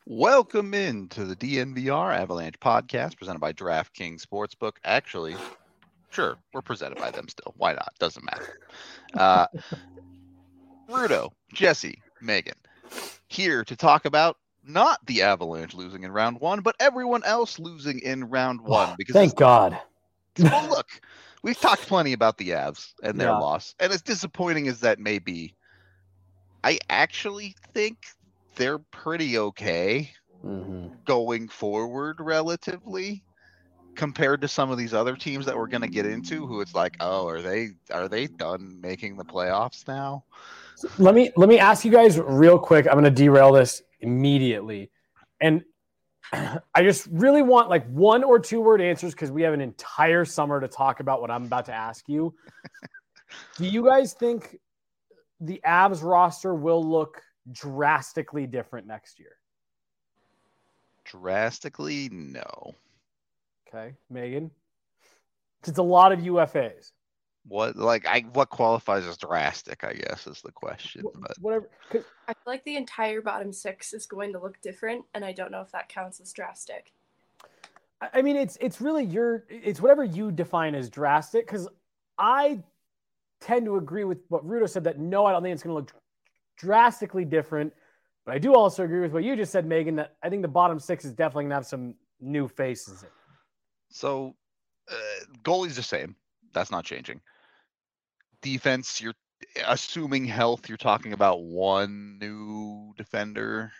Welcome into the DNVR Avalanche podcast presented by DraftKings Sportsbook. Actually, sure, we're presented by them still. Why not? Doesn't matter. Uh, Rudo, Jesse, Megan, here to talk about not the Avalanche losing in round one, but everyone else losing in round one. Because Thank God. well, look, we've talked plenty about the Avs and their Yeah. loss, and as disappointing as that may be, I actually think they're pretty okay going forward relatively compared to some of these other teams that we're going to get into who it's like, oh, are they done making the playoffs now? Let me ask you guys real quick. I'm going to derail this immediately. And I just really want like 1 or 2 word answers because we have an entire summer to talk about what I'm about to ask you. Do you guys think the Avs roster will look drastically different next year? Drastically, no. Okay, Megan. It's a lot of UFAs. What qualifies as drastic, I guess, is the question. But whatever. I feel like the entire bottom six is going to look different, and I don't know if that counts as drastic. I mean, it's really it's whatever you define as drastic, because I tend to agree with what Rudo said that no, I don't think it's going to look drastically different. But I do also agree with what you just said, Megan, that I think the bottom six is definitely going to have some new faces in. So, goalie's the same. That's not changing. Defense, you're assuming health, you're talking about one new defender.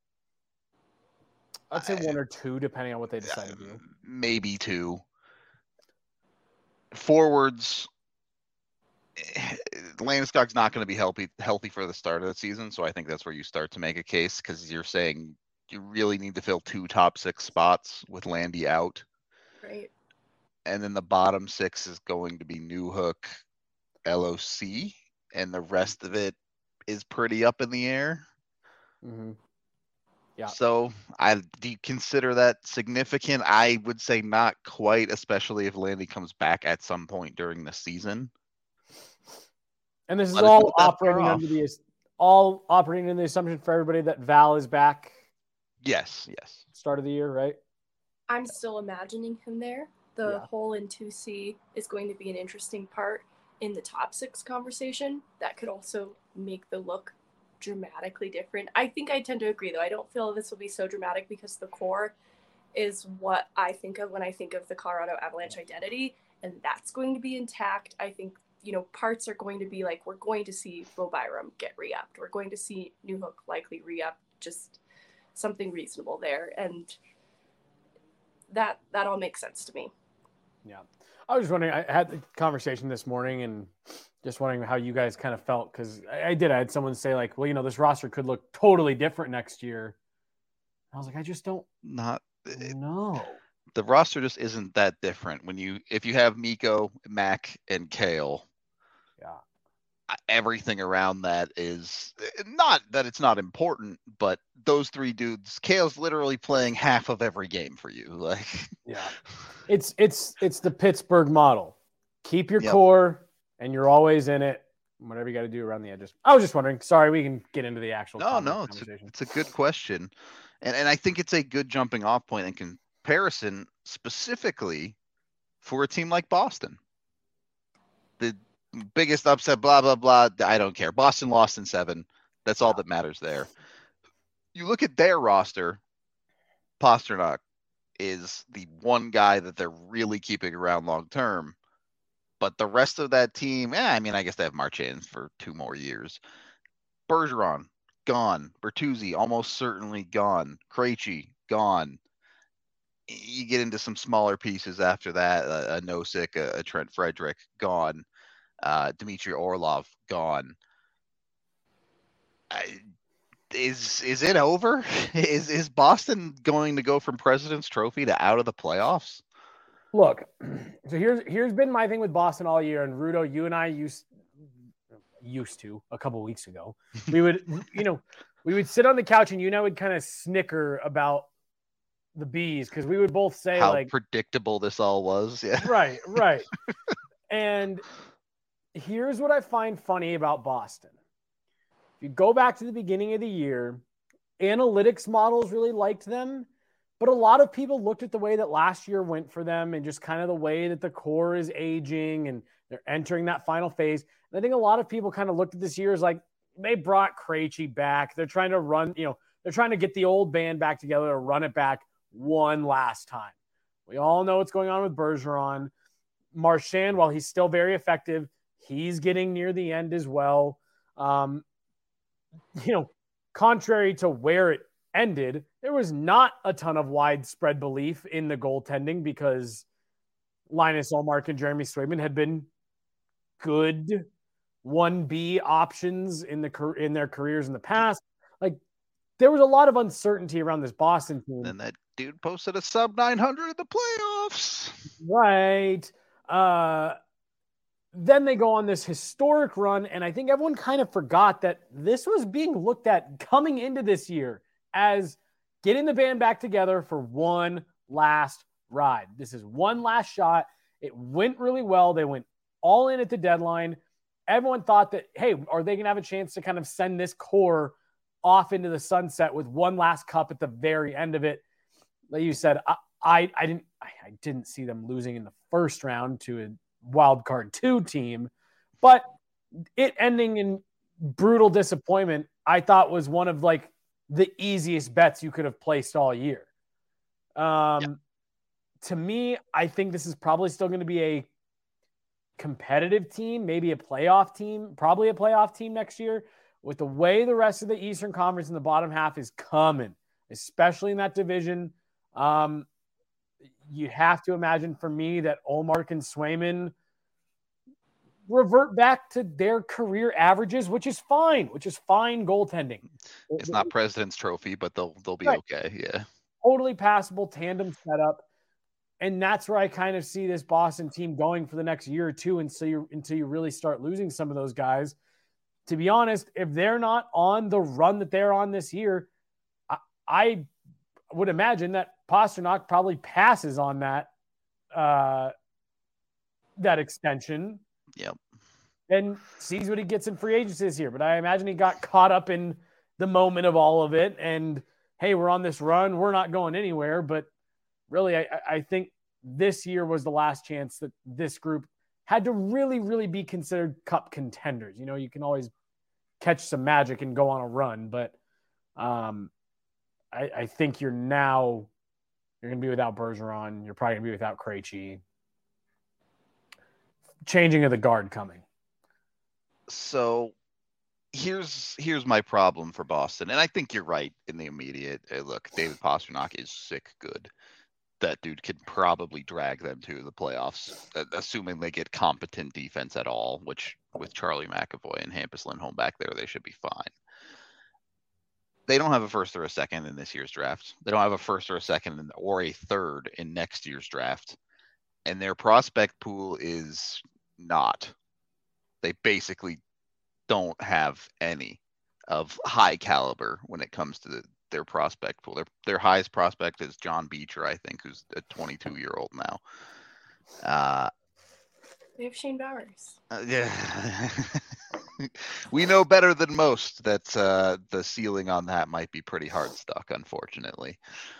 I'd say 1 or 2, depending on what they decide to do. Maybe 2. Forwards, Landeskog's not going to be healthy for the start of the season, so I think that's where you start to make a case, because you're saying you really need to fill 2 top 6 spots with Landy out. Right. And then the bottom 6 is going to be Newhook, LOC, and the rest of it is pretty up in the air. Mm-hmm. Yeah. So do you consider that significant? I would say not quite, especially if Landy comes back at some point during the season. And this is all operating under the assumption for everybody that Val is back. Yes. Start of the year, right? I'm still imagining him there. The hole in 2C is going to be an interesting part in the top 6 conversation. That could also make the look dramatically different. I think I tend to agree, though. I don't feel this will be so dramatic because the core is what I think of when I think of the Colorado Avalanche identity, and that's going to be intact. I think, parts are going to be like, we're going to see Bo Byram get re-upped. We're going to see Newhook likely re-upped, just something reasonable there. And that all makes sense to me. Yeah. I was just wondering, I had the conversation this morning and just wondering how you guys kind of felt, because I had someone say like, well, this roster could look totally different next year. I was like, I just don't know. The roster just isn't that different. If you have Mikko, Mac, and Kale, everything around that is not that it's not important, but those 3 dudes, Kale's literally playing half of every game for you. Like, it's the Pittsburgh model. Keep your core, and you're always in it. Whatever you got to do around the edges. I was just wondering. Sorry, we can get into the actual conversation. It's a good question, and I think it's a good jumping off point in comparison, specifically for a team like Boston. The biggest upset, blah, blah, blah. I don't care. Boston lost in 7. That's all that matters there. You look at their roster, Pastrnak is the one guy that they're really keeping around long term. But the rest of that team, I guess they have Marchand for 2 more years. Bergeron, gone. Bertuzzi, almost certainly gone. Krejci, gone. You get into some smaller pieces after that. A Nosek, a Trent Frederick, gone. Dmitry Orlov gone. Is it over? Is Boston going to go from President's Trophy to out of the playoffs? Look, so here's been my thing with Boston all year, and Rudo, you and I used to a couple weeks ago. We would we would sit on the couch and would kind of snicker about the Bees, because we would both say how predictable this all was. Yeah. Right. And here's what I find funny about Boston. If you go back to the beginning of the year, analytics models really liked them, but a lot of people looked at the way that last year went for them and just kind of the way that the core is aging and they're entering that final phase. And I think a lot of people kind of looked at this year as like, they brought Krejci back. They're trying to run, they're trying to get the old band back together to run it back one last time. We all know what's going on with Bergeron. Marchand, while he's still very effective, he's getting near the end as well. Contrary to where it ended, there was not a ton of widespread belief in the goaltending because Linus Ullmark and Jeremy Swayman had been good 1B options in their careers in the past. Like, there was a lot of uncertainty around this Boston team. And that dude posted a sub 900 in the playoffs. Right. Then they go on this historic run, and I think everyone kind of forgot that this was being looked at coming into this year as getting the band back together for one last ride. This is one last shot. It went really well. They went all in at the deadline. Everyone thought that, hey, are they going to have a chance to kind of send this core off into the sunset with one last cup at the very end of it? Like you said, I didn't see them losing in the first round to a wild card 2 team, but it ending in brutal disappointment, I thought was one of like the easiest bets you could have placed all year. To me, I think this is probably still going to be a competitive team, maybe a playoff team, probably a playoff team next year with the way the rest of the Eastern Conference in the bottom half is coming, especially in that division. You have to imagine for me that Ullmark and Swayman revert back to their career averages, which is fine goaltending. It's not President's Trophy, but they'll be right. Okay. Yeah. Totally passable tandem setup. And that's where I kind of see this Boston team going for the next year or two until you really start losing some of those guys. To be honest, if they're not on the run that they're on this year, I would imagine that Pastrnak probably passes on that extension. Yep. And sees what he gets in free agency this year. But I imagine he got caught up in the moment of all of it. And, hey, we're on this run. We're not going anywhere. But really, I think this year was the last chance that this group had to really, really be considered cup contenders. You can always catch some magic and go on a run. But I think you're going to be without Bergeron. You're probably going to be without Krejci. Changing of the guard coming. So here's my problem for Boston. And I think you're right in the immediate. Look, David Pastrnak is sick good. That dude could probably drag them to the playoffs, assuming they get competent defense at all, which with Charlie McAvoy and Hampus Lindholm back there, they should be fine. They don't have a first or a second in this year's draft. They don't have a first or a second or a third in next year's draft. And their prospect pool is not. They basically don't have any of high caliber when it comes to their prospect pool. Their highest prospect is John Beecher, I think, who's a 22-year-old now. They have Shane Bowers. Yeah. We know better than most that the ceiling on that might be pretty hard stuck, unfortunately.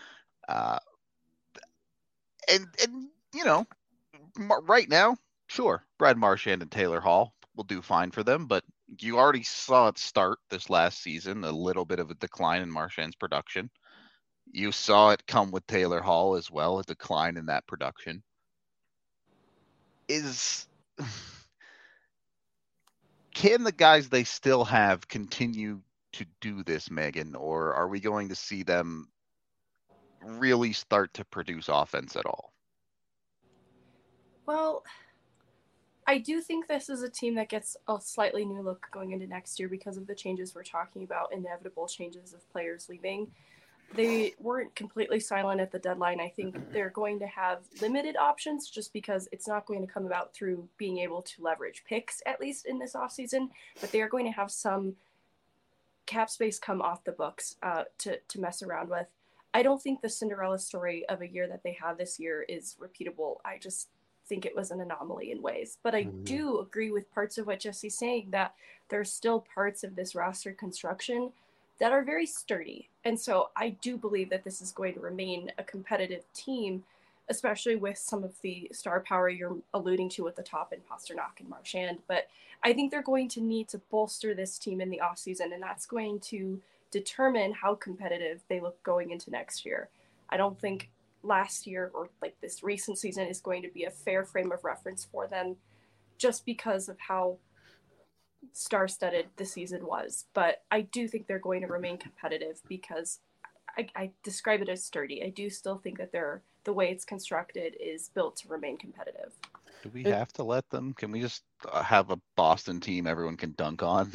And right now, sure, Brad Marchand and Taylor Hall will do fine for them, but you already saw it start this last season, a little bit of a decline in Marchand's production. You saw it come with Taylor Hall as well, a decline in that production. Can the guys they still have continue to do this, Megan, or are we going to see them really start to produce offense at all? Well, I do think this is a team that gets a slightly new look going into next year because of the changes we're talking about, inevitable changes of players leaving. They weren't completely silent at the deadline. I think they're going to have limited options just because it's not going to come about through being able to leverage picks, at least in this offseason, but they are going to have some cap space come off the books to mess around with. I don't think the Cinderella story of a year that they have this year is repeatable. I just think it was an anomaly in ways. But I do agree with parts of what Jesse's saying, that there's still parts of this roster construction that are very sturdy. And so I do believe that this is going to remain a competitive team, especially with some of the star power you're alluding to at the top in Pasternak and Marchand. But I think they're going to need to bolster this team in the offseason, and that's going to determine how competitive they look going into next year. I don't think last year or like this recent season is going to be a fair frame of reference for them just because of how star-studded the season was. But I do think they're going to remain competitive because I describe it as sturdy. I do still think that the way it's constructed is built to remain competitive. Do we have to let them? Can we just have a Boston team everyone can dunk on?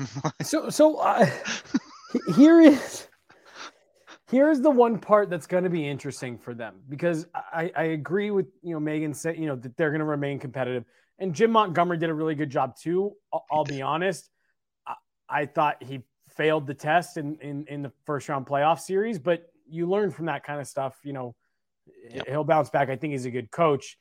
Here's the one part that's going to be interesting for them, because I agree with Megan said that they're going to remain competitive, and Jim Montgomery did a really good job too. I'll be honest, I thought he failed the test in the first round playoff series, but you learn from that kind of stuff. He'll bounce back. I think he's a good coach.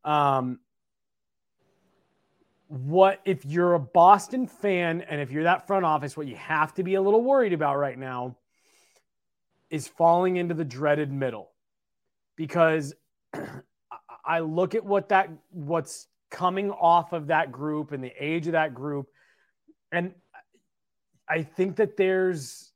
What if you're a Boston fan and if you're that front office, what you have to be a little worried about right now is falling into the dreaded middle, because I look at what's coming off of that group and the age of that group, and I think that there's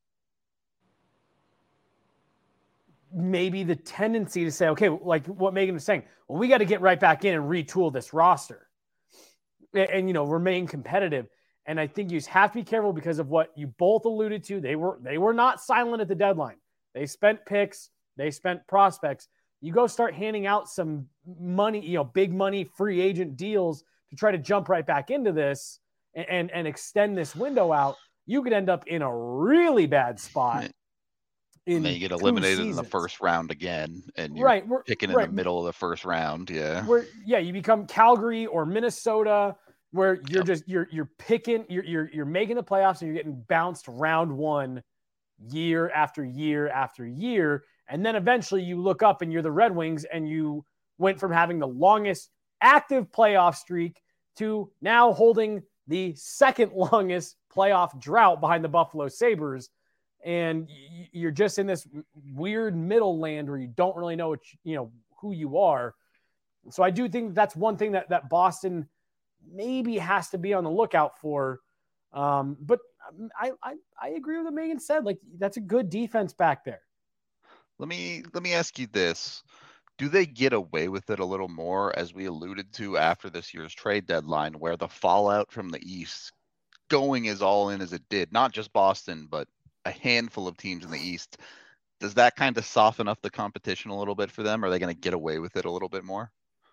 maybe the tendency to say, okay, like what Megan was saying, well, we got to get right back in and retool this roster and remain competitive. And I think you just have to be careful because of what you both alluded to. They were not silent at the deadline. They spent picks, they spent prospects. You go start handing out some money, big money free agent deals to try to jump right back into this and extend this window out. You could end up in a really bad spot. And then you get eliminated in the first round again, and you're picking in the middle of the first round. Yeah. You become Calgary or Minnesota, where you're just you're picking, you're making the playoffs and you're getting bounced round one year after year after year. And then eventually you look up and you're the Red Wings, and you went from having the longest active playoff streak to now holding the second longest playoff drought behind the Buffalo Sabres. And you're just in this weird middle land where you don't really know who you are. So I do think that's one thing that Boston maybe has to be on the lookout for. But I agree with what Megan said. Like, that's a good defense back there. Let me ask you this. Do they get away with it a little more, as we alluded to after this year's trade deadline, where the fallout from the East going as all in as it did, not just Boston, but a handful of teams in the East? Does that kind of soften up the competition a little bit for them? Are they going to get away with it a little bit more?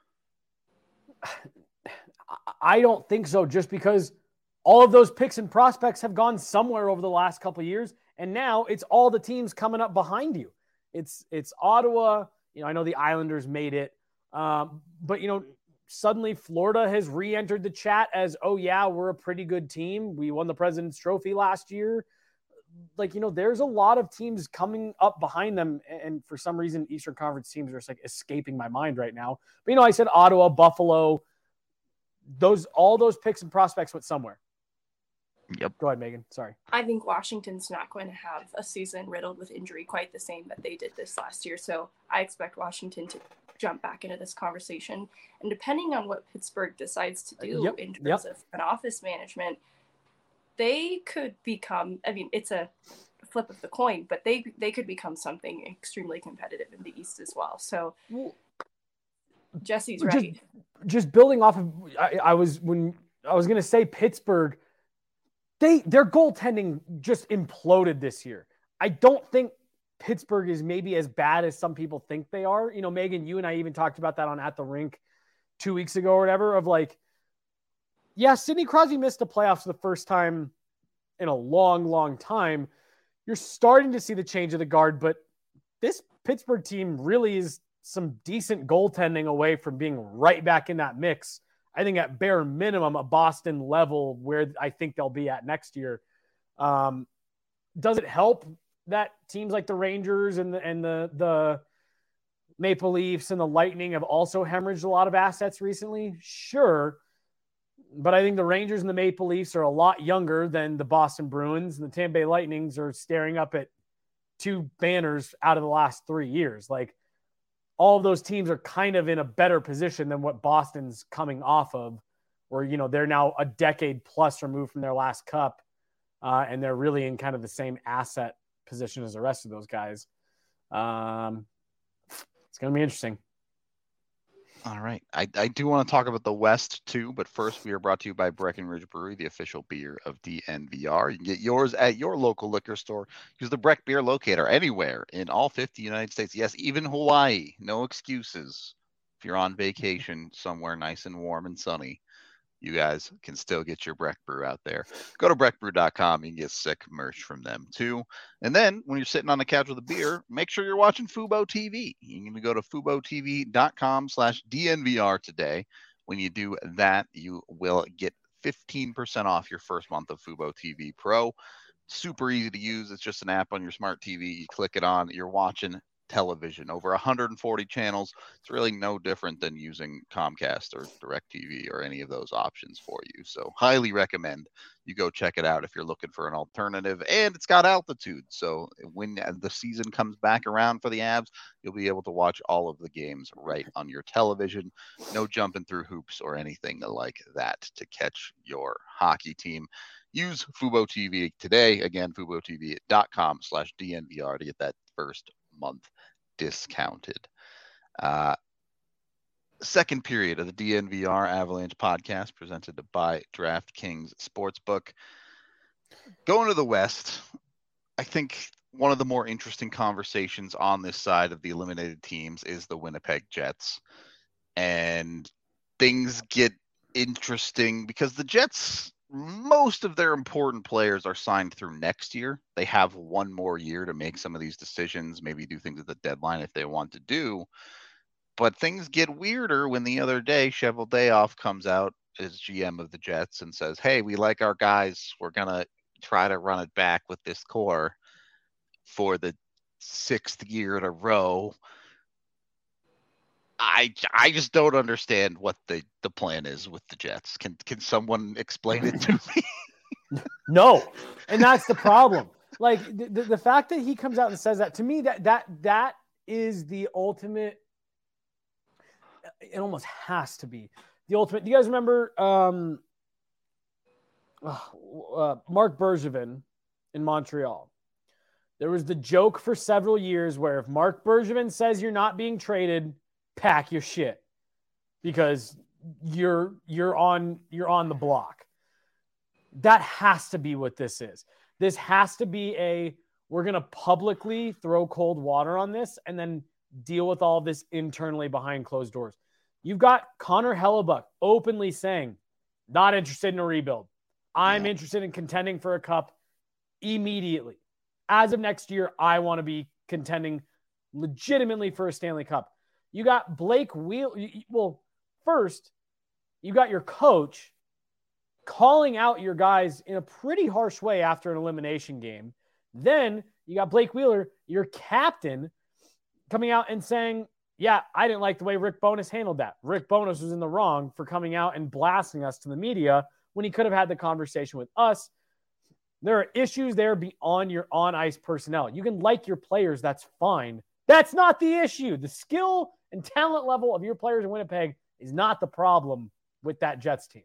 I don't think so, just because all of those picks and prospects have gone somewhere over the last couple of years, and now it's all the teams coming up behind you. It's Ottawa. I know the Islanders made it, but suddenly Florida has re-entered the chat as, oh yeah, we're a pretty good team. We won the President's Trophy last year. Like, there's a lot of teams coming up behind them, and for some reason, Eastern Conference teams are just like escaping my mind right now. But I said Ottawa, Buffalo, all those picks and prospects went somewhere. Yep. Go ahead, Megan. Sorry. I think Washington's not going to have a season riddled with injury quite the same that they did this last year. So I expect Washington to jump back into this conversation. And depending on what Pittsburgh decides to do in terms of an office management, they could become, it's a flip of the coin, but they could become something extremely competitive in the East as well. So Jesse's right. Just building off of, I was going to say Pittsburgh, their goaltending just imploded this year. I don't think Pittsburgh is maybe as bad as some people think they are. Megan, you and I even talked about that on At the Rink 2 weeks ago or whatever, of like, yeah, Sidney Crosby missed the playoffs for the first time in a long, long time. You're starting to see the change of the guard, but this Pittsburgh team really is some decent goaltending away from being right back in that mix. I think at bare minimum, a Boston level where I think they'll be at next year. Does it help that teams like the Rangers and the Maple Leafs and the Lightning have also hemorrhaged a lot of assets recently? Sure. But I think the Rangers and the Maple Leafs are a lot younger than the Boston Bruins, and the Tampa Bay Lightnings are staring up at 2 banners out of the last 3 years. Like, all of those teams are kind of in a better position than what Boston's coming off of, where, you know, they're now a decade plus removed from their last cup, and they're really in kind of the same asset position as the rest of those guys. It's going to be interesting. All right. I do want to talk about the West too, but first we are brought to you by Breckenridge Brewery, the official beer of DNVR. You can get yours at your local liquor store. Use the Breck Beer Locator anywhere in all 50 United States. Yes, even Hawaii. No excuses. If you're on vacation somewhere nice and warm and sunny, you guys can still get your Breck Brew out there. Go to breckbrew.com. You can get sick merch from them too. And then when you're sitting on the couch with a beer, make sure you're watching Fubo TV. You can go to FuboTV.com/DNVR today. When you do that, you will get 15% off your first month of Fubo TV Pro. Super easy to use. It's just an app on your smart TV. You click it on, you're watching television, over 140 channels. It's really no different than using Comcast or DirecTV or any of those options for you. So highly recommend you go check it out if you're looking for an alternative. And it's got altitude, so when the season comes back around for the Avs, you'll be able to watch all of the games right on your television. No jumping through hoops or anything like that to catch your hockey team. Use Fubo TV today. Again, FuboTV.com/DNVR to get that first month discounted. Second period of the DNVR Avalanche podcast presented by DraftKings Sportsbook. Going to the West, I think one of the more interesting conversations on this side of the eliminated teams is the Winnipeg Jets. And things get interesting because the Jets, most of their important players are signed through next year. They have one more year to make some of these decisions, maybe do things at the deadline if they want to do. But things get weirder when the other day Cheveldayoff comes out as GM of the Jets and says, hey, we like our guys. We're going to try to run it back with this core for the 6th year in a row. I just don't understand what the plan is with the Jets. Can someone explain it to me? No, and that's the problem. Like the fact that he comes out and says that, to me, that is the ultimate. It almost has to be the ultimate. Do you guys remember Mark Bergevin in Montreal? There was the joke for several years where if Mark Bergevin says you're not being traded, pack your shit because you're on the block. That has to be what this is. This has to be we're going to publicly throw cold water on this and then deal with all of this internally behind closed doors. You've got Connor Hellebuck openly saying, not interested in a rebuild. I'm interested in contending for a cup immediately. As of next year, I want to be contending legitimately for a Stanley Cup. You got Blake Wheeler. Well, first, you got your coach calling out your guys in a pretty harsh way after an elimination game. Then you got Blake Wheeler, your captain, coming out and saying, yeah, I didn't like the way Rick Bowness handled that. Rick Bowness was in the wrong for coming out and blasting us to the media when he could have had the conversation with us. There are issues there beyond your on-ice personnel. You can like your players, that's fine. That's not the issue. The skill and talent level of your players in Winnipeg is not the problem with that Jets team.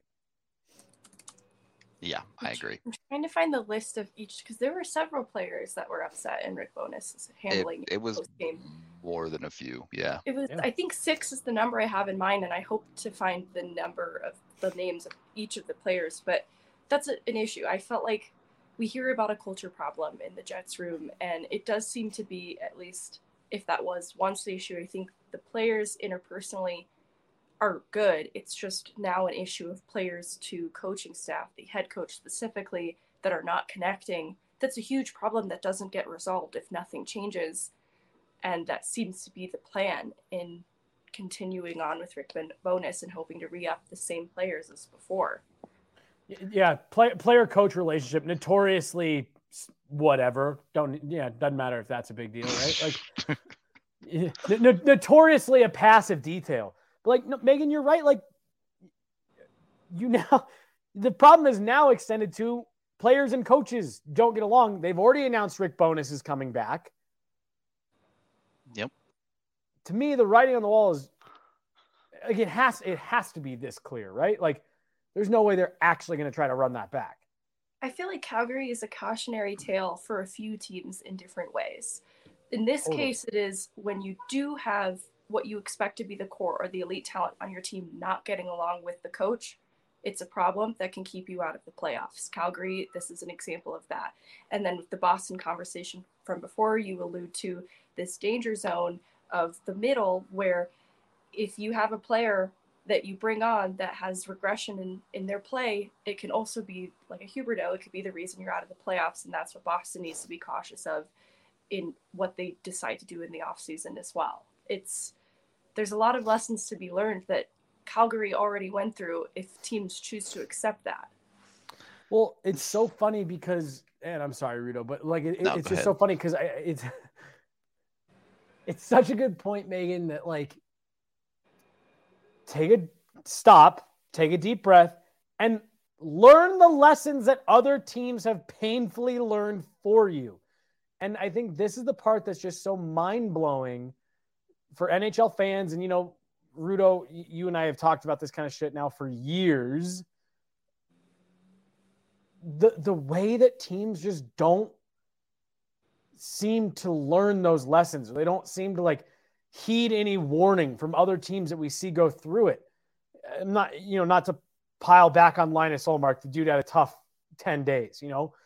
Yeah, I agree. I'm trying to find the list of each because there were several players that were upset in Rick Bowness handling it was game. More than a few. Yeah. It was. Yeah. I think 6 is the number I have in mind, and I hope to find the number of the names of each of the players. But that's an issue. I felt like we hear about a culture problem in the Jets room, and it does seem to be, at least if that was once the issue, I think the players interpersonally are good. It's just now an issue of players to coaching staff, the head coach specifically, that are not connecting. That's a huge problem that doesn't get resolved if nothing changes. And that seems to be the plan in continuing on with Rick Bowness and hoping to re-up the same players as before. Yeah, player-coach relationship, notoriously whatever. Doesn't matter if that's a big deal, right? Like, notoriously a passive detail. But like, Megan, you're right. Like, the problem is now extended to players and coaches don't get along. They've already announced Rick Bowness is coming back. Yep. To me, the writing on the wall is like it has to be this clear, right? Like there's no way they're actually going to try to run that back. I feel like Calgary is a cautionary tale for a few teams in different ways. In this case, it is when you do have what you expect to be the core or the elite talent on your team not getting along with the coach, it's a problem that can keep you out of the playoffs. Calgary, this is an example of that. And then with the Boston conversation from before, you allude to this danger zone of the middle where if you have a player that you bring on that has regression in their play, it can also be like a Huberdeau. It could be the reason you're out of the playoffs, and that's what Boston needs to be cautious of in what they decide to do in the offseason as well. There's a lot of lessons to be learned that Calgary already went through if teams choose to accept that. Well, it's so funny because, and I'm sorry, Rudo, but like it's just ahead. so funny because it's such a good point, Megan, that like take a deep breath, and learn the lessons that other teams have painfully learned for you. And I think this is the part that's just so mind-blowing for NHL fans. And, Rudo, you and I have talked about this kind of shit now for years. The way that teams just don't seem to learn those lessons. They don't seem to like heed any warning from other teams that we see go through it. I'm not to pile back on Linus Ullmark. The dude had a tough 10 days,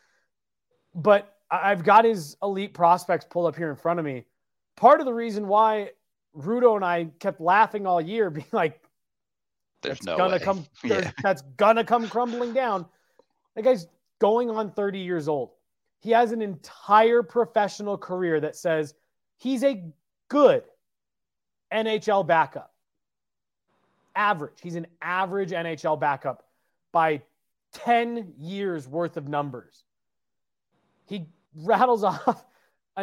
but I've got his elite prospects pulled up here in front of me. Part of the reason why Rudo and I kept laughing all year, being like, that's gonna come crumbling down. That guy's going on 30 years old. He has an entire professional career that says he's a good NHL backup. Average. He's an average NHL backup by 10 years worth of numbers. He rattles off a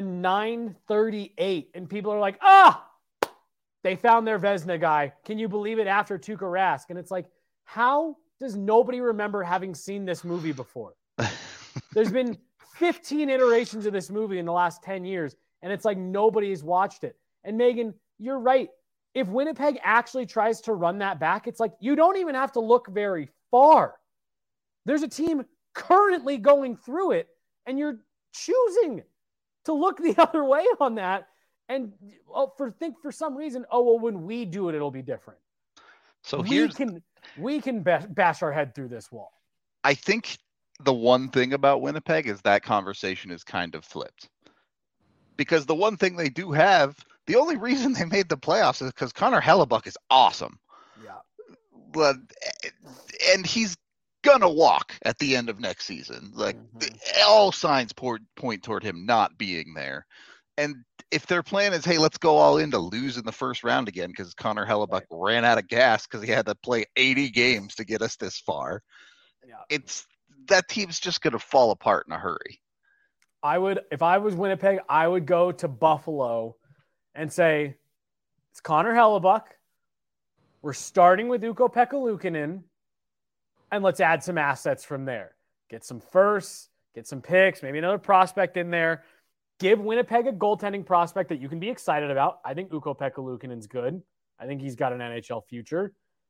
938 and people are like, they found their Vezina guy. Can you believe it after Tuukka Rask? And it's like, how does nobody remember having seen this movie before? There's been 15 iterations of this movie in the last 10 years, and it's like nobody's watched it. And Megan, you're right. If Winnipeg actually tries to run that back, it's like you don't even have to look very far. There's a team currently going through it, and you're choosing to look the other way on that. And for some reason, when we do it, it'll be different. So we can bash our head through this wall. I think the one thing about Winnipeg is that conversation is kind of flipped. Because the one thing they do have, the only reason they made the playoffs is because Connor Hellebuck is awesome. Yeah. And he's gonna walk at the end of next season. Like all signs point toward him not being there. And if their plan is, hey, let's go all in to lose in the first round again because Connor Hellebuck ran out of gas because he had to play 80 games to get us this far. Yeah. That team's just going to fall apart in a hurry. If I was Winnipeg, I would go to Buffalo and say, it's Connor Hellebuck. We're starting with Ukko-Pekka Luukkonen, and let's add some assets from there. Get some firsts, get some picks, maybe another prospect in there. Give Winnipeg a goaltending prospect that you can be excited about. I think Ukko-Pekka Luukkonen's good. I think he's got an NHL future.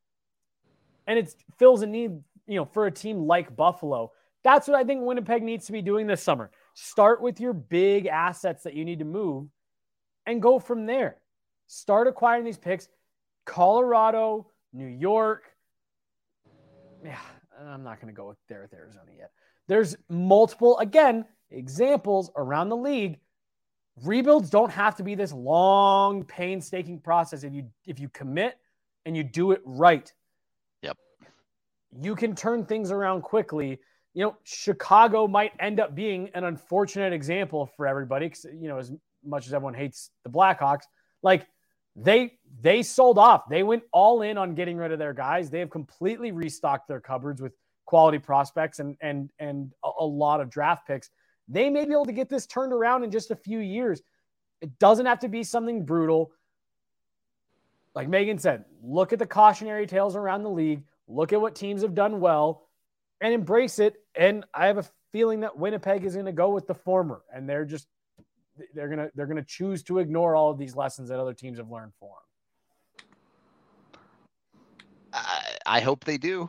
And it fills a need, for a team like Buffalo. That's what I think Winnipeg needs to be doing this summer. Start with your big assets that you need to move and go from there. Start acquiring these picks. Colorado, New York. Yeah, I'm not going to go there with Arizona yet. There's multiple, again, examples around the league. Rebuilds don't have to be this long, painstaking process. If you commit and you do it right, yep, you can turn things around quickly. Chicago might end up being an unfortunate example for everybody. Because, as much as everyone hates the Blackhawks, like they sold off. They went all in on getting rid of their guys. They have completely restocked their cupboards with quality prospects and a lot of draft picks. They may be able to get this turned around in just a few years. It doesn't have to be something brutal. Like Megan said, look at the cautionary tales around the league. look at what teams have done well, and embrace it. And I have a feeling that Winnipeg is going to go with the former, and they're going to choose to ignore all of these lessons that other teams have learned for them. I hope they do.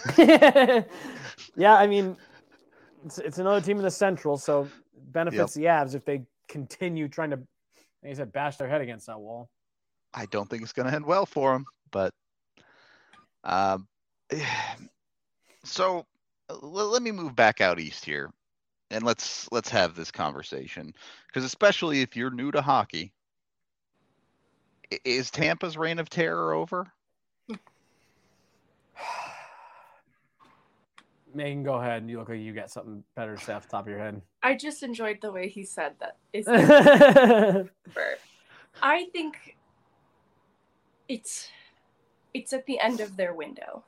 Yeah, I mean, it's another team in the Central, so benefits the Avs if they continue trying to, like I said, bash their head against that wall. I don't think it's going to end well for them, but so let me move back out east here, and let's have this conversation, because especially if you're new to hockey, is Tampa's reign of terror over? Megan, go ahead. You look like you got something better to say off the top of your head. I just enjoyed the way he said that. I think it's at the end of their window.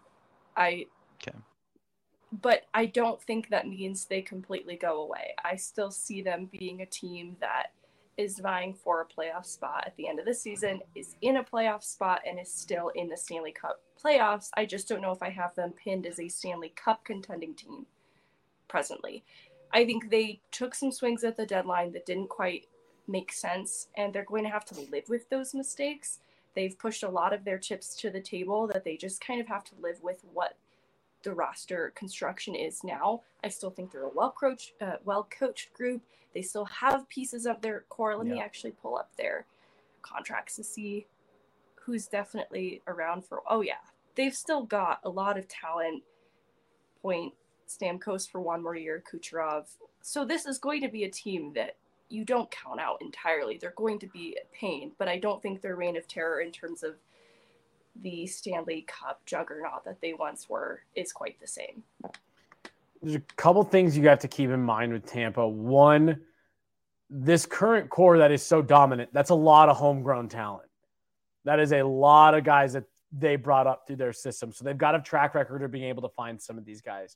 But I don't think that means they completely go away. I still see them being a team that is vying for a playoff spot at the end of the season, is in a playoff spot, and is still in the Stanley Cup playoffs. I just don't know if I have them pinned as a Stanley Cup contending team presently. I think they took some swings at the deadline that didn't quite make sense, and they're going to have to live with those mistakes. They've pushed a lot of their chips to the table that they just kind of have to live with what the roster construction is now. I still think they're a well-coached group. They still have pieces of their core. Let me actually pull up their contracts to see who's definitely around for. Oh yeah, they've still got a lot of talent. Point Stamkos for one more year, Kucherov. So this is going to be a team that you don't count out entirely. They're going to be a pain, but I don't think their reign of terror in terms of the Stanley Cup juggernaut that they once were is quite the same. There's a couple things you have to keep in mind with Tampa. One, this current core that is so dominant, that's a lot of homegrown talent. That is a lot of guys that they brought up through their system. So they've got a track record of being able to find some of these guys.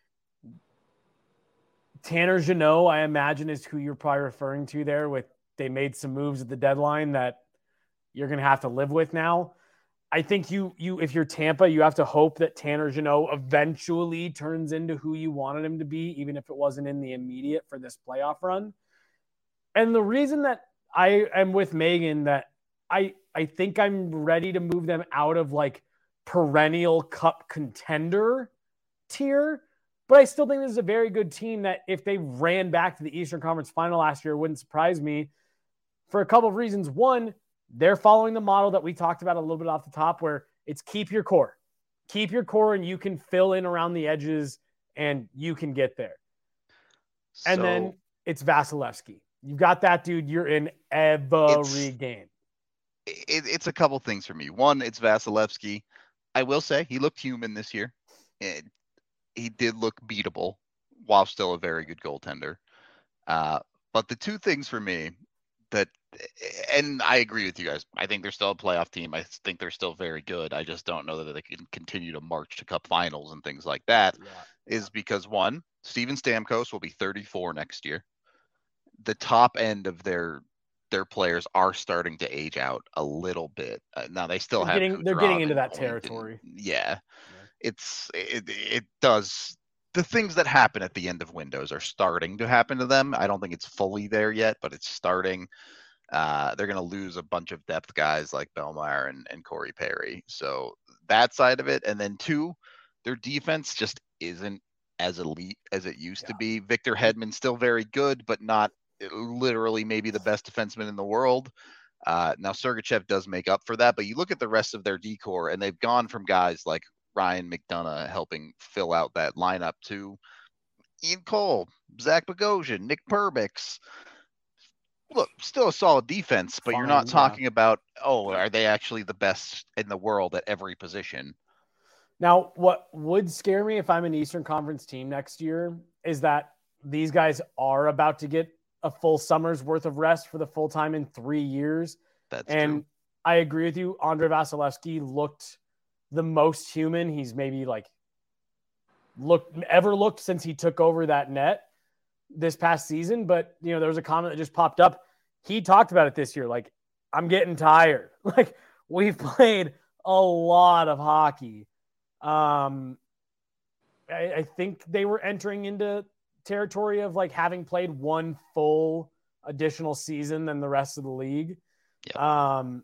Tanner Jeannot, I imagine, is who you're probably referring to there with they made some moves at the deadline that you're going to have to live with now. I think you if you're Tampa, you have to hope that Tanner Jeannot eventually turns into who you wanted him to be, even if it wasn't in the immediate for this playoff run. And the reason that I am with Megan that I think I'm ready to move them out of like perennial cup contender tier, but I still think this is a very good team that if they ran back to the Eastern Conference Final last year, it wouldn't surprise me for a couple of reasons. One, they're following the model that we talked about a little bit off the top where it's keep your core. Keep your core and you can fill in around the edges and you can get there. And then it's Vasilevsky. You've got that dude. You're in every game. It's a couple things for me. One, it's Vasilevsky. I will say he looked human this year. He did look beatable while still a very good goaltender. But the two things for me that, and I agree with you guys, I think they're still a playoff team. I think they're still very good. I just don't know that they can continue to march to cup finals and things like that. Is because one, Steven Stamkos will be 34 next year. The top end of their players are starting to age out a little bit. Now they still they're getting into that territory. It does. The things that happen at the end of windows are starting to happen to them. I don't think it's fully there yet, but it's starting. They're going to lose a bunch of depth guys like Bellemare and Corey Perry. So that side of it. And then two, their defense just isn't as elite as it used to be. Victor Hedman's still very good, but not literally maybe the best defenseman in the world. Now Sergachev does make up for that, but you look at the rest of their D-core and they've gone from guys like Ryan McDonough helping fill out that lineup to Ian Cole, Zach Bogosian, Nick Perbix. Look, still a solid defense, but you're not talking about, are they actually the best in the world at every position? Now, what would scare me if I'm an Eastern Conference team next year is that these guys are about to get a full summer's worth of rest for the full time in 3 years. That's true. I agree with you. Andre Vasilevsky looked the most human he's maybe looked since he took over that net this past season. But, there was a comment that just popped up. He talked about it this year. Like, I'm getting tired. Like, we've played a lot of hockey. I think they were entering into territory of like having played one full additional season than the rest of the league. Yep.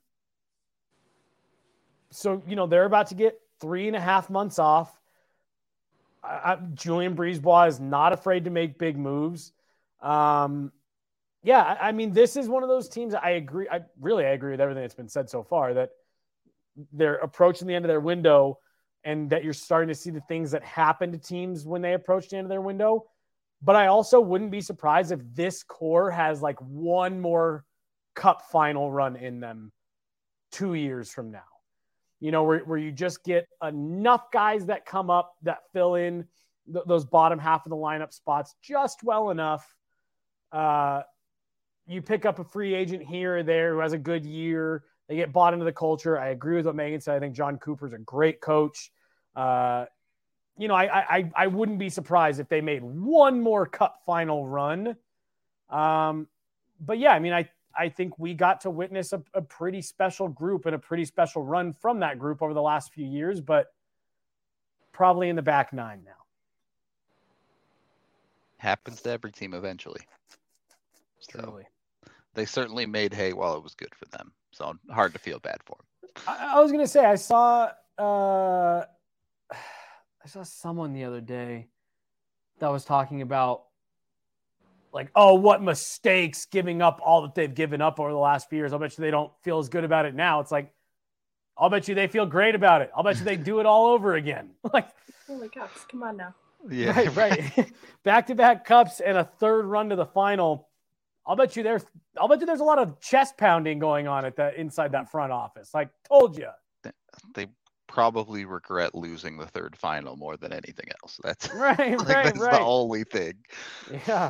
So, they're about to get 3.5 months off. Julian Brisebois is not afraid to make big moves. Yeah, I mean, this is one of those teams. I agree. I agree with everything that's been said so far, that they're approaching the end of their window and that you're starting to see the things that happen to teams when they approach the end of their window. But I also wouldn't be surprised if this core has like one more cup final run in them 2 years from now. Where you just get enough guys that come up that fill in those bottom half of the lineup spots just well enough. You pick up a free agent here or there who has a good year. They get bought into the culture. I agree with what Megan said. I think John Cooper's a great coach. I wouldn't be surprised if they made one more cup final run. But yeah, I mean, I think we got to witness a pretty special group and a pretty special run from that group over the last few years, but probably in the back nine now. Happens to every team eventually. Truly. So they certainly made hay while it was good for them. So hard to feel bad for them. I was going to say, I saw someone the other day that was talking about like, oh, what mistakes giving up all that they've given up over the last few years. I'll bet you they don't feel as good about it now. It's like, I'll bet you they feel great about it. I'll bet you they do it all over again. Like, holy cups, come on now. Yeah, right. Back-to-back cups and a third run to the final. I'll bet you there's a lot of chest pounding going on inside that front office. Like, told you. They probably regret losing the third final more than anything else. That's right. That's the only thing. Yeah.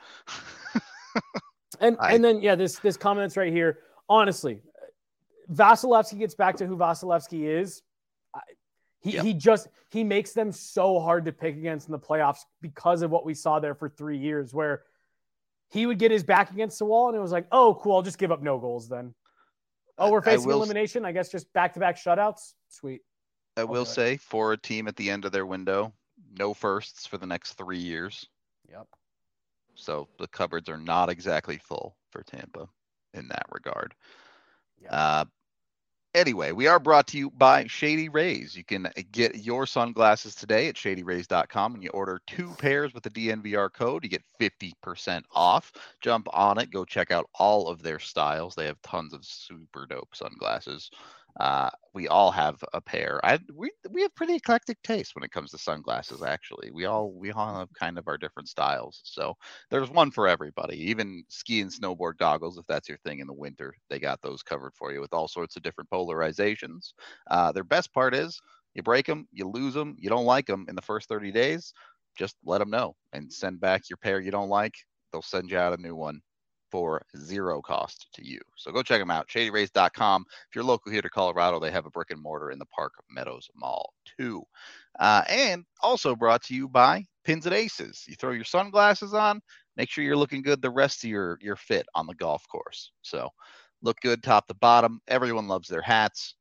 and then this comment's right here. Honestly, Vasilevsky gets back to who Vasilevsky is. He makes them so hard to pick against in the playoffs because of what we saw there for 3 years, where he would get his back against the wall and it was like, oh, cool, I'll just give up no goals then. Oh, we're facing elimination. I guess just back-to-back shutouts. Sweet. I will say, for a team at the end of their window, no firsts for the next 3 years. Yep. So the cupboards are not exactly full for Tampa in that regard. Yep. Anyway, we are brought to you by Shady Rays. You can get your sunglasses today at shadyrays.com, and you order 2 pairs with the DNVR code. You get 50% off. Jump on it. Go check out all of their styles. They have tons of super dope sunglasses. We all have a pair. We have pretty eclectic taste when it comes to sunglasses. Actually, we all have kind of our different styles. So there's one for everybody. Even ski and snowboard goggles, if that's your thing in the winter, they got those covered for you with all sorts of different polarizations. Their best part is you break them, you lose them, you don't like them in the first 30 days. Just let them know and send back your pair you don't like. They'll send you out a new one for zero cost to you. So go check them out, shadyrays.com. If you're local here to Colorado, they have a brick and mortar in the Park Meadows Mall too. And also brought to you by Pins and Aces. You throw your sunglasses on, make sure you're looking good the rest of your fit on the golf course. So look good top to bottom. Everyone loves their hats.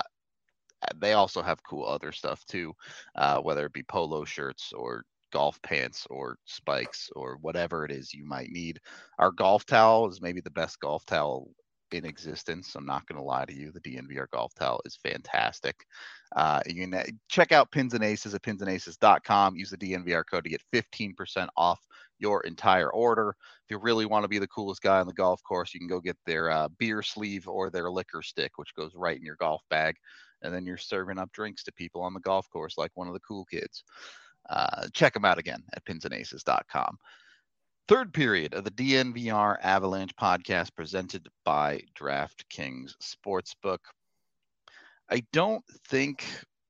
They also have cool other stuff too, whether it be polo shirts or golf pants or spikes or whatever it is you might need. Our golf towel is maybe the best golf towel in existence. I'm not going to lie to you. The DNVR golf towel is fantastic. You can check out Pins and Aces at pinsandaces.com. Use the DNVR code to get 15% off your entire order. If you really want to be the coolest guy on the golf course, you can go get their beer sleeve or their liquor stick, which goes right in your golf bag. And then you're serving up drinks to people on the golf course like one of the cool kids. Check them out again at pinsandaces.com. Third period of the DNVR Avalanche podcast presented by DraftKings Sportsbook. I don't think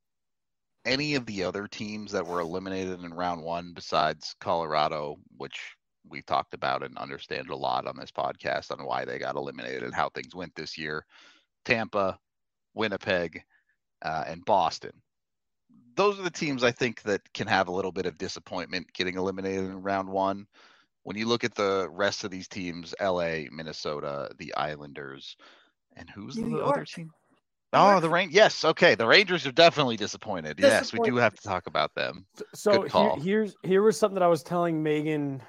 any of the other teams that were eliminated in round one, besides Colorado, which we talked about and understand a lot on this podcast on why they got eliminated and how things went this year, Tampa, Winnipeg, and Boston. Those are the teams I think that can have a little bit of disappointment getting eliminated in round one. When you look at the rest of these teams, LA, Minnesota, the Islanders, and who's the other team? Oh, the Rain. Yes, okay. The Rangers are definitely disappointed. Yes, we do have to talk about them. So Good call. here was something that I was telling Megan.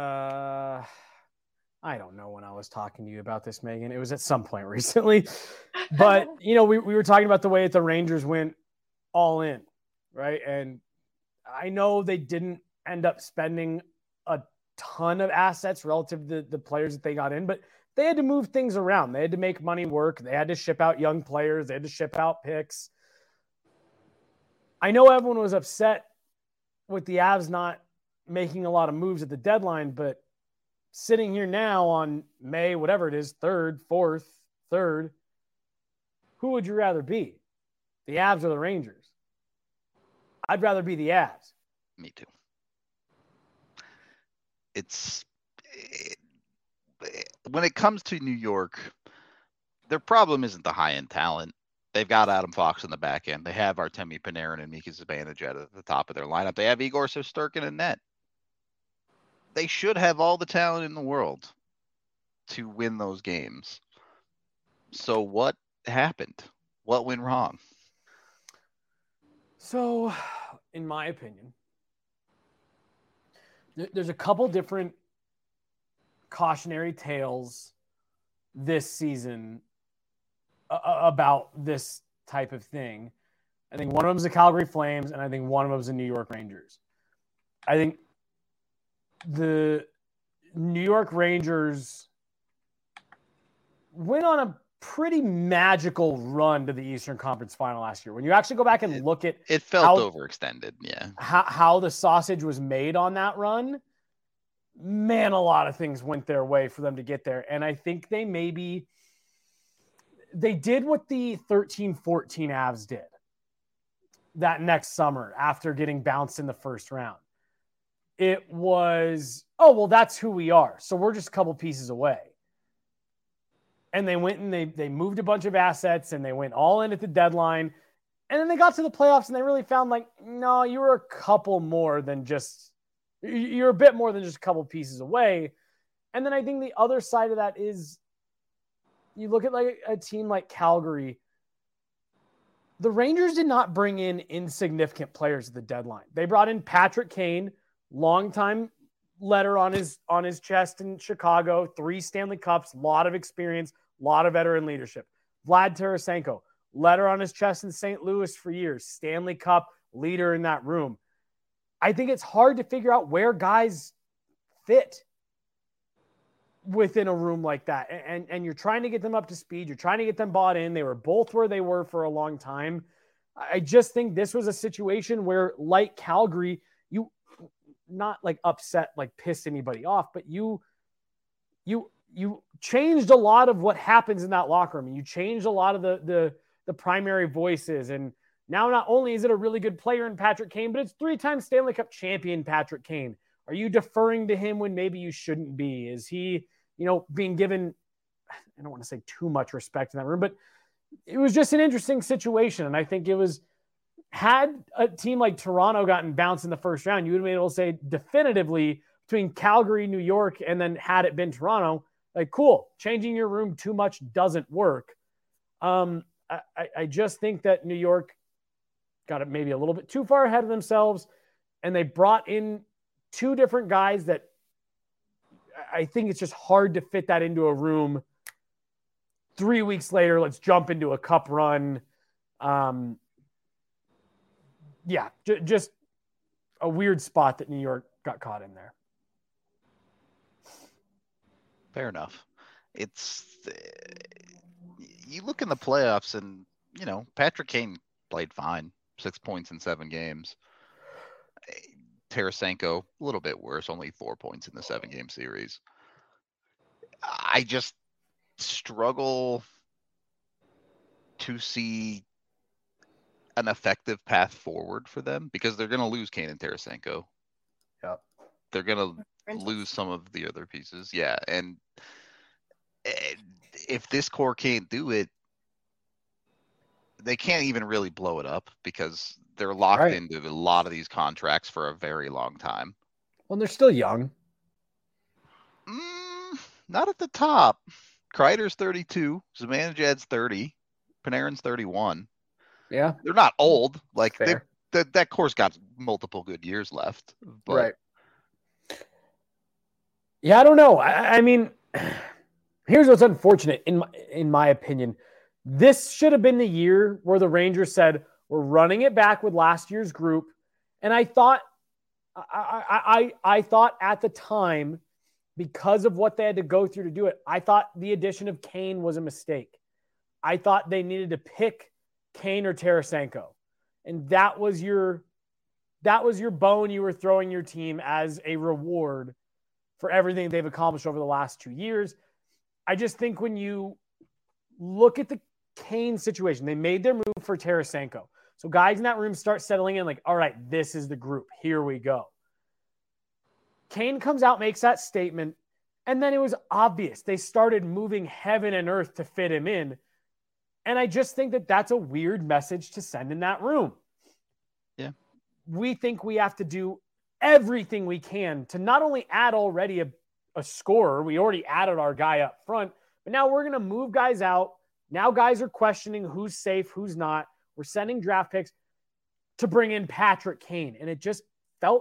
I don't know when I was talking to you about this, Megan. It was at some point recently. But, we were talking about the way that the Rangers went all in, right? And I know they didn't end up spending a ton of assets relative to the players that they got in, but they had to move things around. They had to make money work. They had to ship out young players. They had to ship out picks. I know everyone was upset with the Avs not making a lot of moves at the deadline, but sitting here now on May, whatever it is, 3rd, 4th, 3rd, who would you rather be? The Avs or the Rangers? I'd rather be the Avs. Me too. When it comes to New York, their problem isn't the high-end talent. They've got Adam Fox in the back end. They have Artemi Panarin and Mika Zibanejad at the top of their lineup. They have Igor Shesterkin in net. They should have all the talent in the world to win those games. So what happened? What went wrong? So, in my opinion, there's a couple different cautionary tales this season about this type of thing. I think one of them is the Calgary Flames, and I think one of them is the New York Rangers. I think the New York Rangers went on a pretty magical run to the Eastern Conference Final last year. When you actually go back and look at it, felt overextended. Yeah, how the sausage was made on that run, man, a lot of things went their way for them to get there. And I think they did what the 13-14 Avs did that next summer after getting bounced in the first round. It was, that's who we are. So we're just a couple pieces away. And they went and they moved a bunch of assets and they went all in at the deadline. And then they got to the playoffs and they really found no, you were a couple more than just, you're a bit more than just a couple pieces away. And then I think the other side of that is you look at a team like Calgary. The Rangers did not bring in insignificant players at the deadline. They brought in Patrick Kane, longtime letter on his chest in Chicago, 3 Stanley Cups, lot of experience, lot of veteran leadership. Vlad Tarasenko, letter on his chest in St. Louis for years, Stanley Cup leader in that room. I think it's hard to figure out where guys fit within a room like that. And you're trying to get them up to speed. You're trying to get them bought in. They were both where they were for a long time. I just think this was a situation where, like Calgary, you not upset, pissed anybody off, but you changed a lot of what happens in that locker room. You changed a lot of the primary voices. And now not only is it a really good player in Patrick Kane, but it's 3-time Stanley Cup champion Patrick Kane. Are you deferring to him when maybe you shouldn't be? Is he, being given, I don't want to say too much respect in that room, but it was just an interesting situation. And I think it was, had a team like Toronto gotten bounced in the first round, you would have been able to say definitively between Calgary, New York, and then had it been Toronto, cool, changing your room too much doesn't work. I just think that New York got it maybe a little bit too far ahead of themselves, and they brought in 2 different guys that I think it's just hard to fit that into a room. 3 weeks later, let's jump into a cup run. Just a weird spot that New York got caught in there. Fair enough. You look in the playoffs and, Patrick Kane played fine. 6 points in 7 games. Tarasenko, a little bit worse, only 4 points in the 7-game series. I just struggle to see an effective path forward for them because they're going to lose Kane and Tarasenko. Yep. They're going to lose some of the other pieces. Yeah. And if this core can't do it, they can't even really blow it up because they're locked into a lot of these contracts for a very long time. Well, they're still young. Not at the top. Kreider's 32. Zibanejad's 30. Panarin's 31. Yeah. They're not old. Like Fair. that core's got multiple good years left. But Right. Yeah, I don't know. I mean, here's what's unfortunate in my opinion. This should have been the year where the Rangers said, we're running it back with last year's group. And I thought at the time, because of what they had to go through to do it, I thought the addition of Kane was a mistake. I thought they needed to pick Kane or Tarasenko. And that was your bone you were throwing your team as a reward for everything they've accomplished over the last 2 years. I just think when you look at the Kane situation, they made their move for Tarasenko. So guys in that room start settling in like, all right, this is the group. Here we go. Kane comes out, makes that statement, and then it was obvious. They started moving heaven and earth to fit him in. And I just think that that's a weird message to send in that room. Yeah. We think we have to do everything we can to not only add already a scorer, we already added our guy up front, but now we're going to move guys out. Now guys are questioning who's safe, who's not. We're sending draft picks to bring in Patrick Kane. And it just felt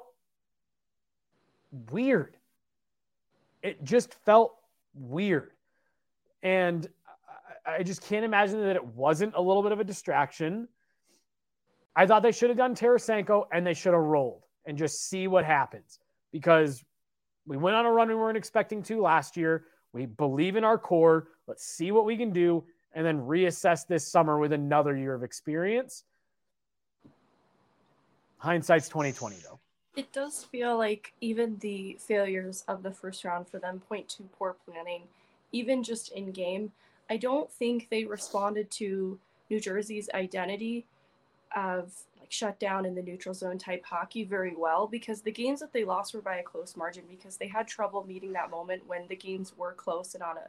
weird. It just felt weird. And I just can't imagine that it wasn't a little bit of a distraction. I thought they should have done Tarasenko and they should have rolled and just see what happens, because we went on a run we weren't expecting to last year. We believe in our core. Let's see what we can do and then reassess this summer with another year of experience. Hindsight's 2020 though. It does feel like even the failures of the first round for them point to poor planning, even just in game. I don't think they responded to New Jersey's identity of like shut down in the neutral zone type hockey very well, because the games that they lost were by a close margin because they had trouble meeting that moment when the games were close and on a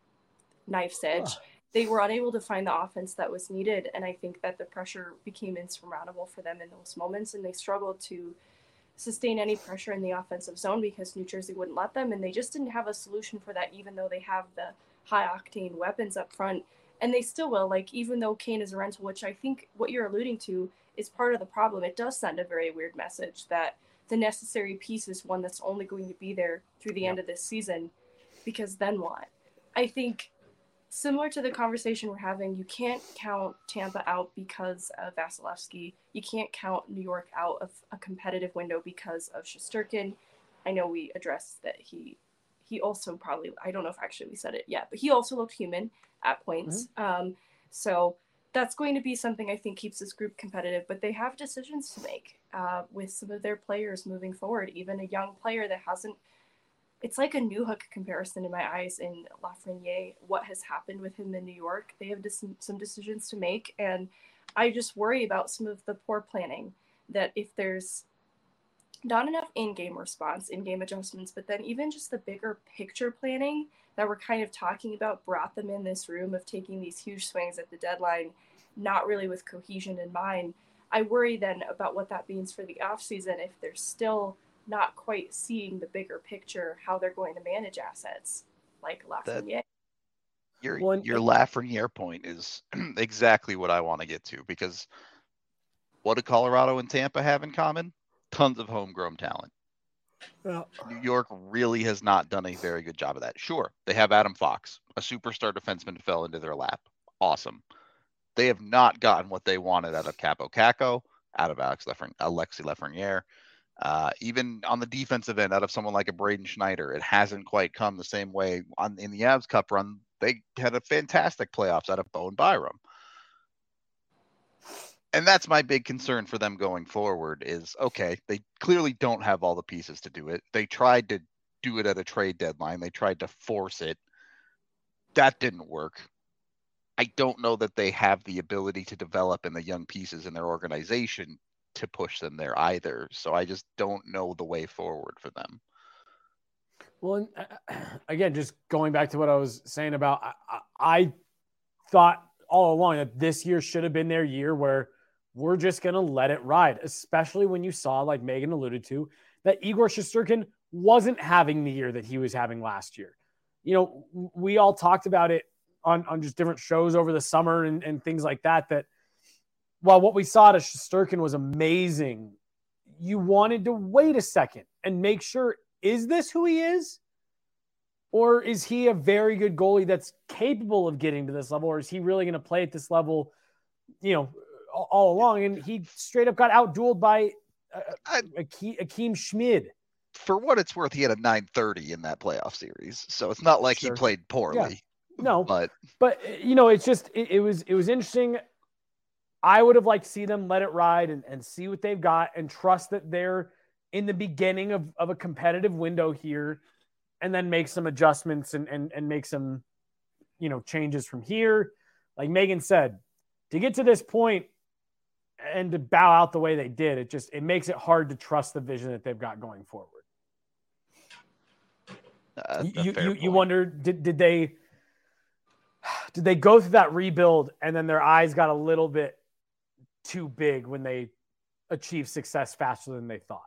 knife's edge. They were unable to find the offense that was needed, and I think that the pressure became insurmountable for them in those moments, and they struggled to sustain any pressure in the offensive zone because New Jersey wouldn't let them, and they just didn't have a solution for that, even though they have the high-octane weapons up front, and they still will. Like, even though Kane is a rental, which I think what you're alluding to is part of the problem, it does send a very weird message that the necessary piece is one that's only going to be there through the end of this season, because then what? I think similar to the conversation we're having, you can't count Tampa out because of Vasilevsky. You can't count New York out of a competitive window because of Shesterkin. I know we addressed that he also probably, I don't know if actually we said it yet, but he also looked human at points. Mm-hmm. So that's going to be something I think keeps this group competitive, but they have decisions to make with some of their players moving forward. Even a young player that hasn't, it's like a Newhook comparison in my eyes in Lafreniere, what has happened with him in New York. They have some decisions to make, and I just worry about some of the poor planning, that if there's not enough in-game response, in-game adjustments, but then even just the bigger picture planning that we're kind of talking about brought them in this room of taking these huge swings at the deadline, not really with cohesion in mind. I worry then about what that means for the offseason if they're still not quite seeing the bigger picture, how they're going to manage assets like Lafreniere. Your Lafreniere point is exactly what I want to get to, because what do Colorado and Tampa have in common? Tons of homegrown talent. Well, New York really has not done a very good job of that. Sure, they have Adam Fox, a superstar defenseman who fell into their lap. Awesome. They have not gotten what they wanted out of Capo Caco, out of Alexis Lafreniere. Even on the defensive end, out of someone like a Braden Schneider, it hasn't quite come the same way. In the Avs Cup run, they had a fantastic playoffs out of Bowen Byram. And that's my big concern for them going forward is, okay, they clearly don't have all the pieces to do it. They tried to do it at a trade deadline. They tried to force it. That didn't work. I don't know that they have the ability to develop in the young pieces in their organization to push them there either. So I just don't know the way forward for them. Well, again, just going back to what I was saying about, I thought all along that this year should have been their year where we're just going to let it ride, especially when you saw, like Megan alluded to, that Igor Shesterkin wasn't having the year that he was having last year. You know, we all talked about it on just different shows over the summer and things like that, that while what we saw at Shesterkin was amazing, you wanted to wait a second and make sure, is this who he is? Or is he a very good goalie that's capable of getting to this level? Or is he really going to play at this level, all along? And he straight up got outdueled by Akeem Schmid. For what it's worth, he had a 930 in that playoff series. So it's not like he played poorly. Yeah. No, but it's just, it was interesting. I would have liked to see them let it ride and see what they've got and trust that they're in the beginning of a competitive window here, and then make some adjustments and make some, changes from here. Like Megan said, to get to this point and to bow out the way they did, it makes it hard to trust the vision that they've got going forward. You wonder, did they go through that rebuild and then their eyes got a little bit too big when they achieved success faster than they thought?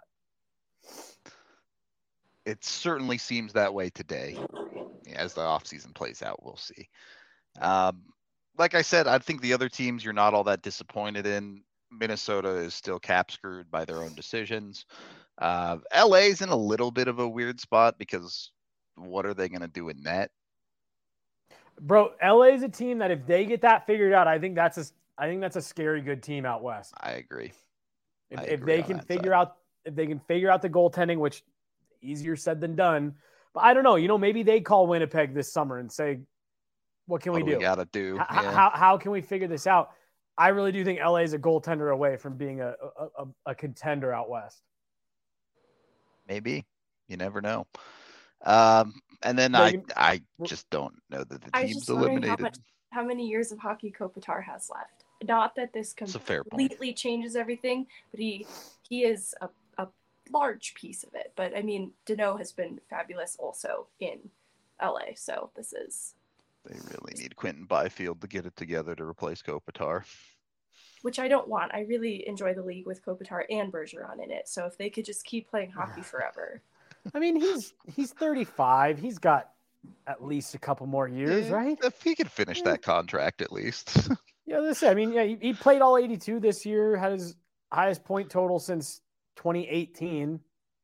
It certainly seems that way today. As the offseason plays out, we'll see. Like I said, I think the other teams you're not all that disappointed in. Minnesota is still cap screwed by their own decisions. LA's in a little bit of a weird spot because what are they going to do in net? Bro, LA is a team that if they get that figured out, I think that's a scary good team out west. I agree. If they can figure out the goaltending, which easier said than done, but I don't know. Maybe they call Winnipeg this summer and say, "What can we do? We gotta do. How can we figure this out?" I really do think LA is a goaltender away from being a contender out west. Maybe. You never know. And then I just don't know that the team's eliminated. How many years of hockey Kopitar has left? Not that this completely changes everything, but he is a large piece of it. But I mean, Danault has been fabulous also in LA. So they really need Quentin Byfield to get it together to replace Kopitar. Which I don't want. I really enjoy the league with Kopitar and Bergeron in it. So if they could just keep playing hockey forever. I mean, he's 35. He's got at least a couple more years, right? If he could finish that contract at least. Yeah, listen, I mean, he played all 82 this year, had his highest point total since 2018.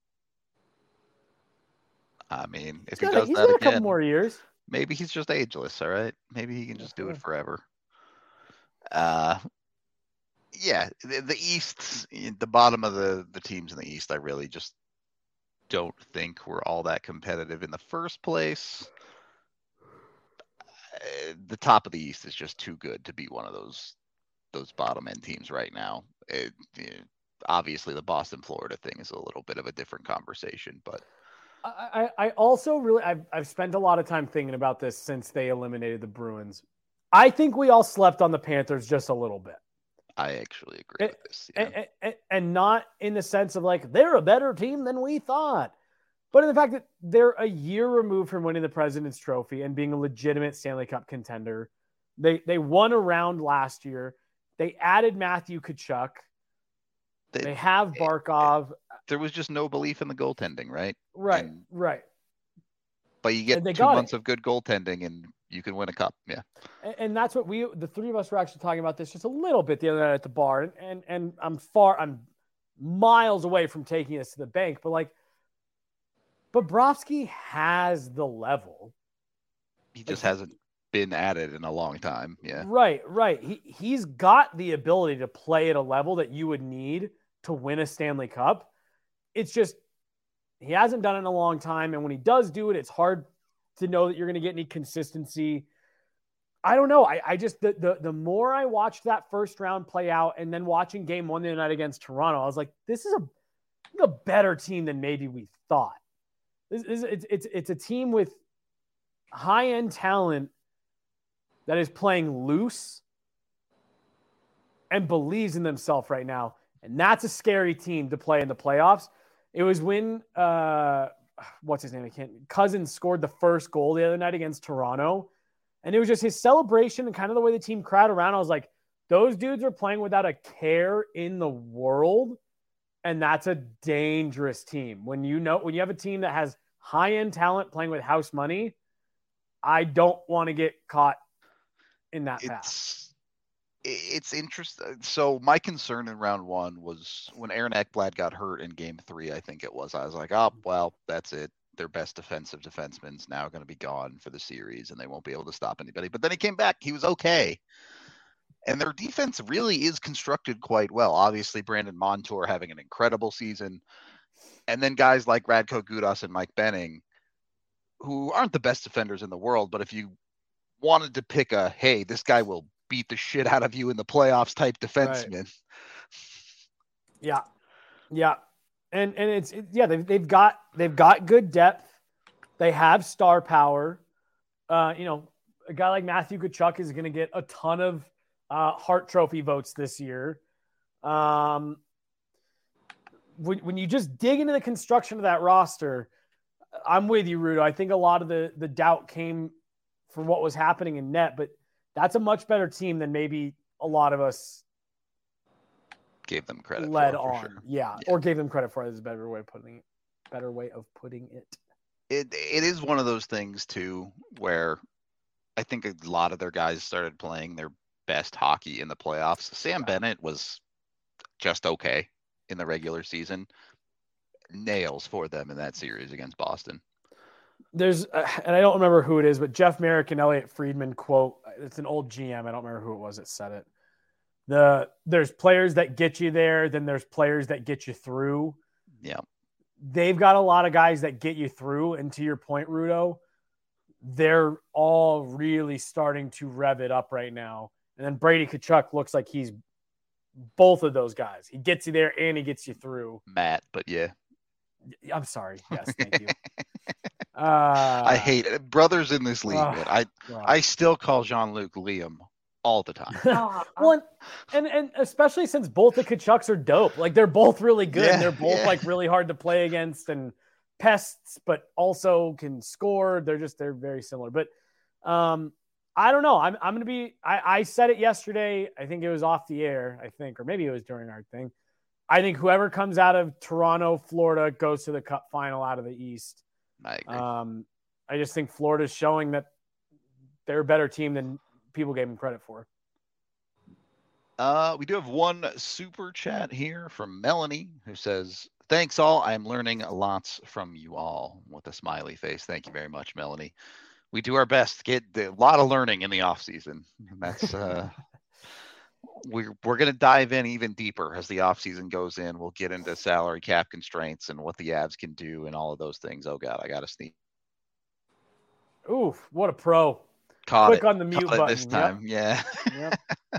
I mean, if he does that again, a couple more years. Maybe he's just ageless, all right? Maybe he can just do it forever. Yeah, the East, the bottom of the teams in the East, I really just don't think we're all that competitive in the first place. The top of the East is just too good to be one of those bottom end teams right now. Obviously, the Boston Florida thing is a little bit of a different conversation, but I also really I've spent a lot of time thinking about this since they eliminated the Bruins. I think we all slept on the Panthers just a little bit. I actually agree with this. Yeah. And not in the sense of like they're a better team than we thought, but in the fact that they're a year removed from winning the President's Trophy and being a legitimate Stanley Cup contender. They won a round last year. They added Matthew Tkachuk. They have Barkov. There was just no belief in the goaltending, right? Right. But you get 2 months of good goaltending and you can win a cup. Yeah. And that's what the three of us were actually talking about this just a little bit the other night at the bar. And I'm miles away from taking this to the bank, but like Bobrovsky has the level. He just hasn't been at it in a long time. Yeah. Right. He's got the ability to play at a level that you would need to win a Stanley Cup. It's just he hasn't done it in a long time. And when he does do it, it's hard to know that you're going to get any consistency. I don't know. I just, the more I watched that first round play out and then watching game one the other night against Toronto, I was like, this is a better team than maybe we thought. It's a team with high-end talent that is playing loose and believes in themselves right now. And that's a scary team to play in the playoffs. It was when, what's his name? Cousins scored the first goal the other night against Toronto. And it was just his celebration and kind of the way the team crowded around. I was like, those dudes are playing without a care in the world. And that's a dangerous team. When you have a team that has high-end talent playing with house money, I don't want to get caught in that path. It's interesting. So my concern in round one was when Aaron Ekblad got hurt in game 3, I think it was. I was like, oh, well, that's it. Their best defensive defenseman's now going to be gone for the series, and they won't be able to stop anybody. But then he came back. He was okay. And their defense really is constructed quite well. Obviously, Brandon Montour having an incredible season. And then guys like Radko Gudas and Mike Benning, who aren't the best defenders in the world, but if you wanted to pick a, hey, this guy will beat the shit out of you in the playoffs type defenseman. Right. Yeah. Yeah. And they've got good depth. They have star power. A guy like Matthew Tkachuk is going to get a ton of Hart Trophy votes this year. When you just dig into the construction of that roster, I'm with you, Rudo. I think a lot of the doubt came from what was happening in net, but that's a much better team than maybe a lot of us gave them credit led for on. Sure. Yeah, or gave them credit for it is a better way of putting it. It is one of those things too where I think a lot of their guys started playing their best hockey in the playoffs. Sam Bennett was just okay in the regular season. Nails for them in that series against Boston. There's, and I don't remember who it is, but Jeff Merrick and Elliot Friedman quote, it's an old GM. I don't remember who it was that said it. There's players that get you there, then there's players that get you through. Yeah. They've got a lot of guys that get you through. And to your point, Rudo, they're all really starting to rev it up right now. And then Brady Tkachuk looks like he's both of those guys. He gets you there and he gets you through. Matt, but yeah. I'm sorry. Yes, thank you. I hate it. Brothers in this league, but I still call Jean-Luc Liam all the time. Well, and especially since both the Tkachuks are dope. Like they're both really good. Yeah, and they're both like really hard to play against and pests, but also can score. They're very similar. But I don't know. I'm going to be. I said it yesterday. I think it was off the air. I think, or maybe it was during our thing. I think whoever comes out of Toronto, Florida, goes to the Cup final out of the East. I agree. I just think Florida's showing that they're a better team than people gave them credit for. We do have one super chat here from Melanie who says, "Thanks all. I'm learning lots from you all," with a smiley face. Thank you very much, Melanie. We do our best to get a lot of learning in the off season. That's we're going to dive in even deeper as the offseason goes in. We'll get into salary cap constraints and what the Avs can do and all of those things. Oh, God, I got to sneeze. Oof, what a pro. Click on the mute button this time. Yep. Yeah.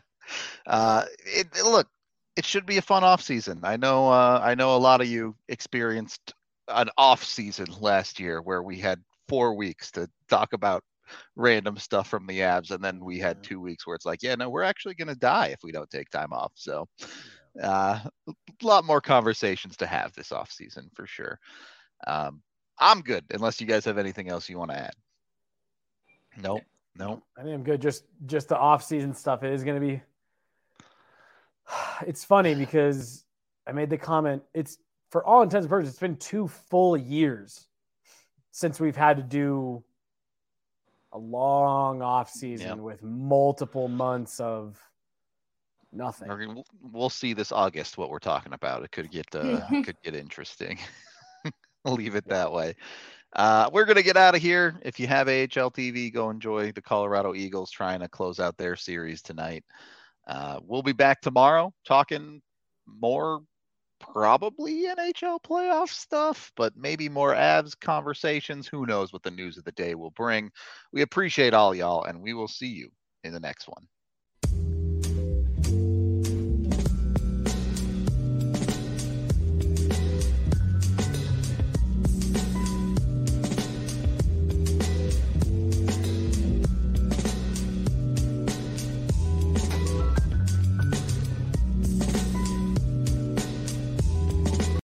Look, it should be a fun offseason. I know a lot of you experienced an off season last year where we had 4 weeks to talk about random stuff from the Avs, and then we had 2 weeks where it's like, yeah, no, we're actually going to die if we don't take time off. So a lot more conversations to have this off season for sure. I'm good unless you guys have anything else you want to add. Nope. I think I'm good. Just the off season stuff. It is going to be, it's funny because I made the comment, it's for all intents and purposes, it's been 2 full years since we've had to do a long off season with multiple months of nothing. We'll see this August what we're talking about. It could get interesting. I'll leave it that way. We're going to get out of here. If you have AHL TV, go enjoy the Colorado Eagles trying to close out their series tonight. We'll be back tomorrow talking more probably NHL playoff stuff, but maybe more Avs conversations. Who knows what the news of the day will bring. We appreciate all y'all, and we will see you in the next one.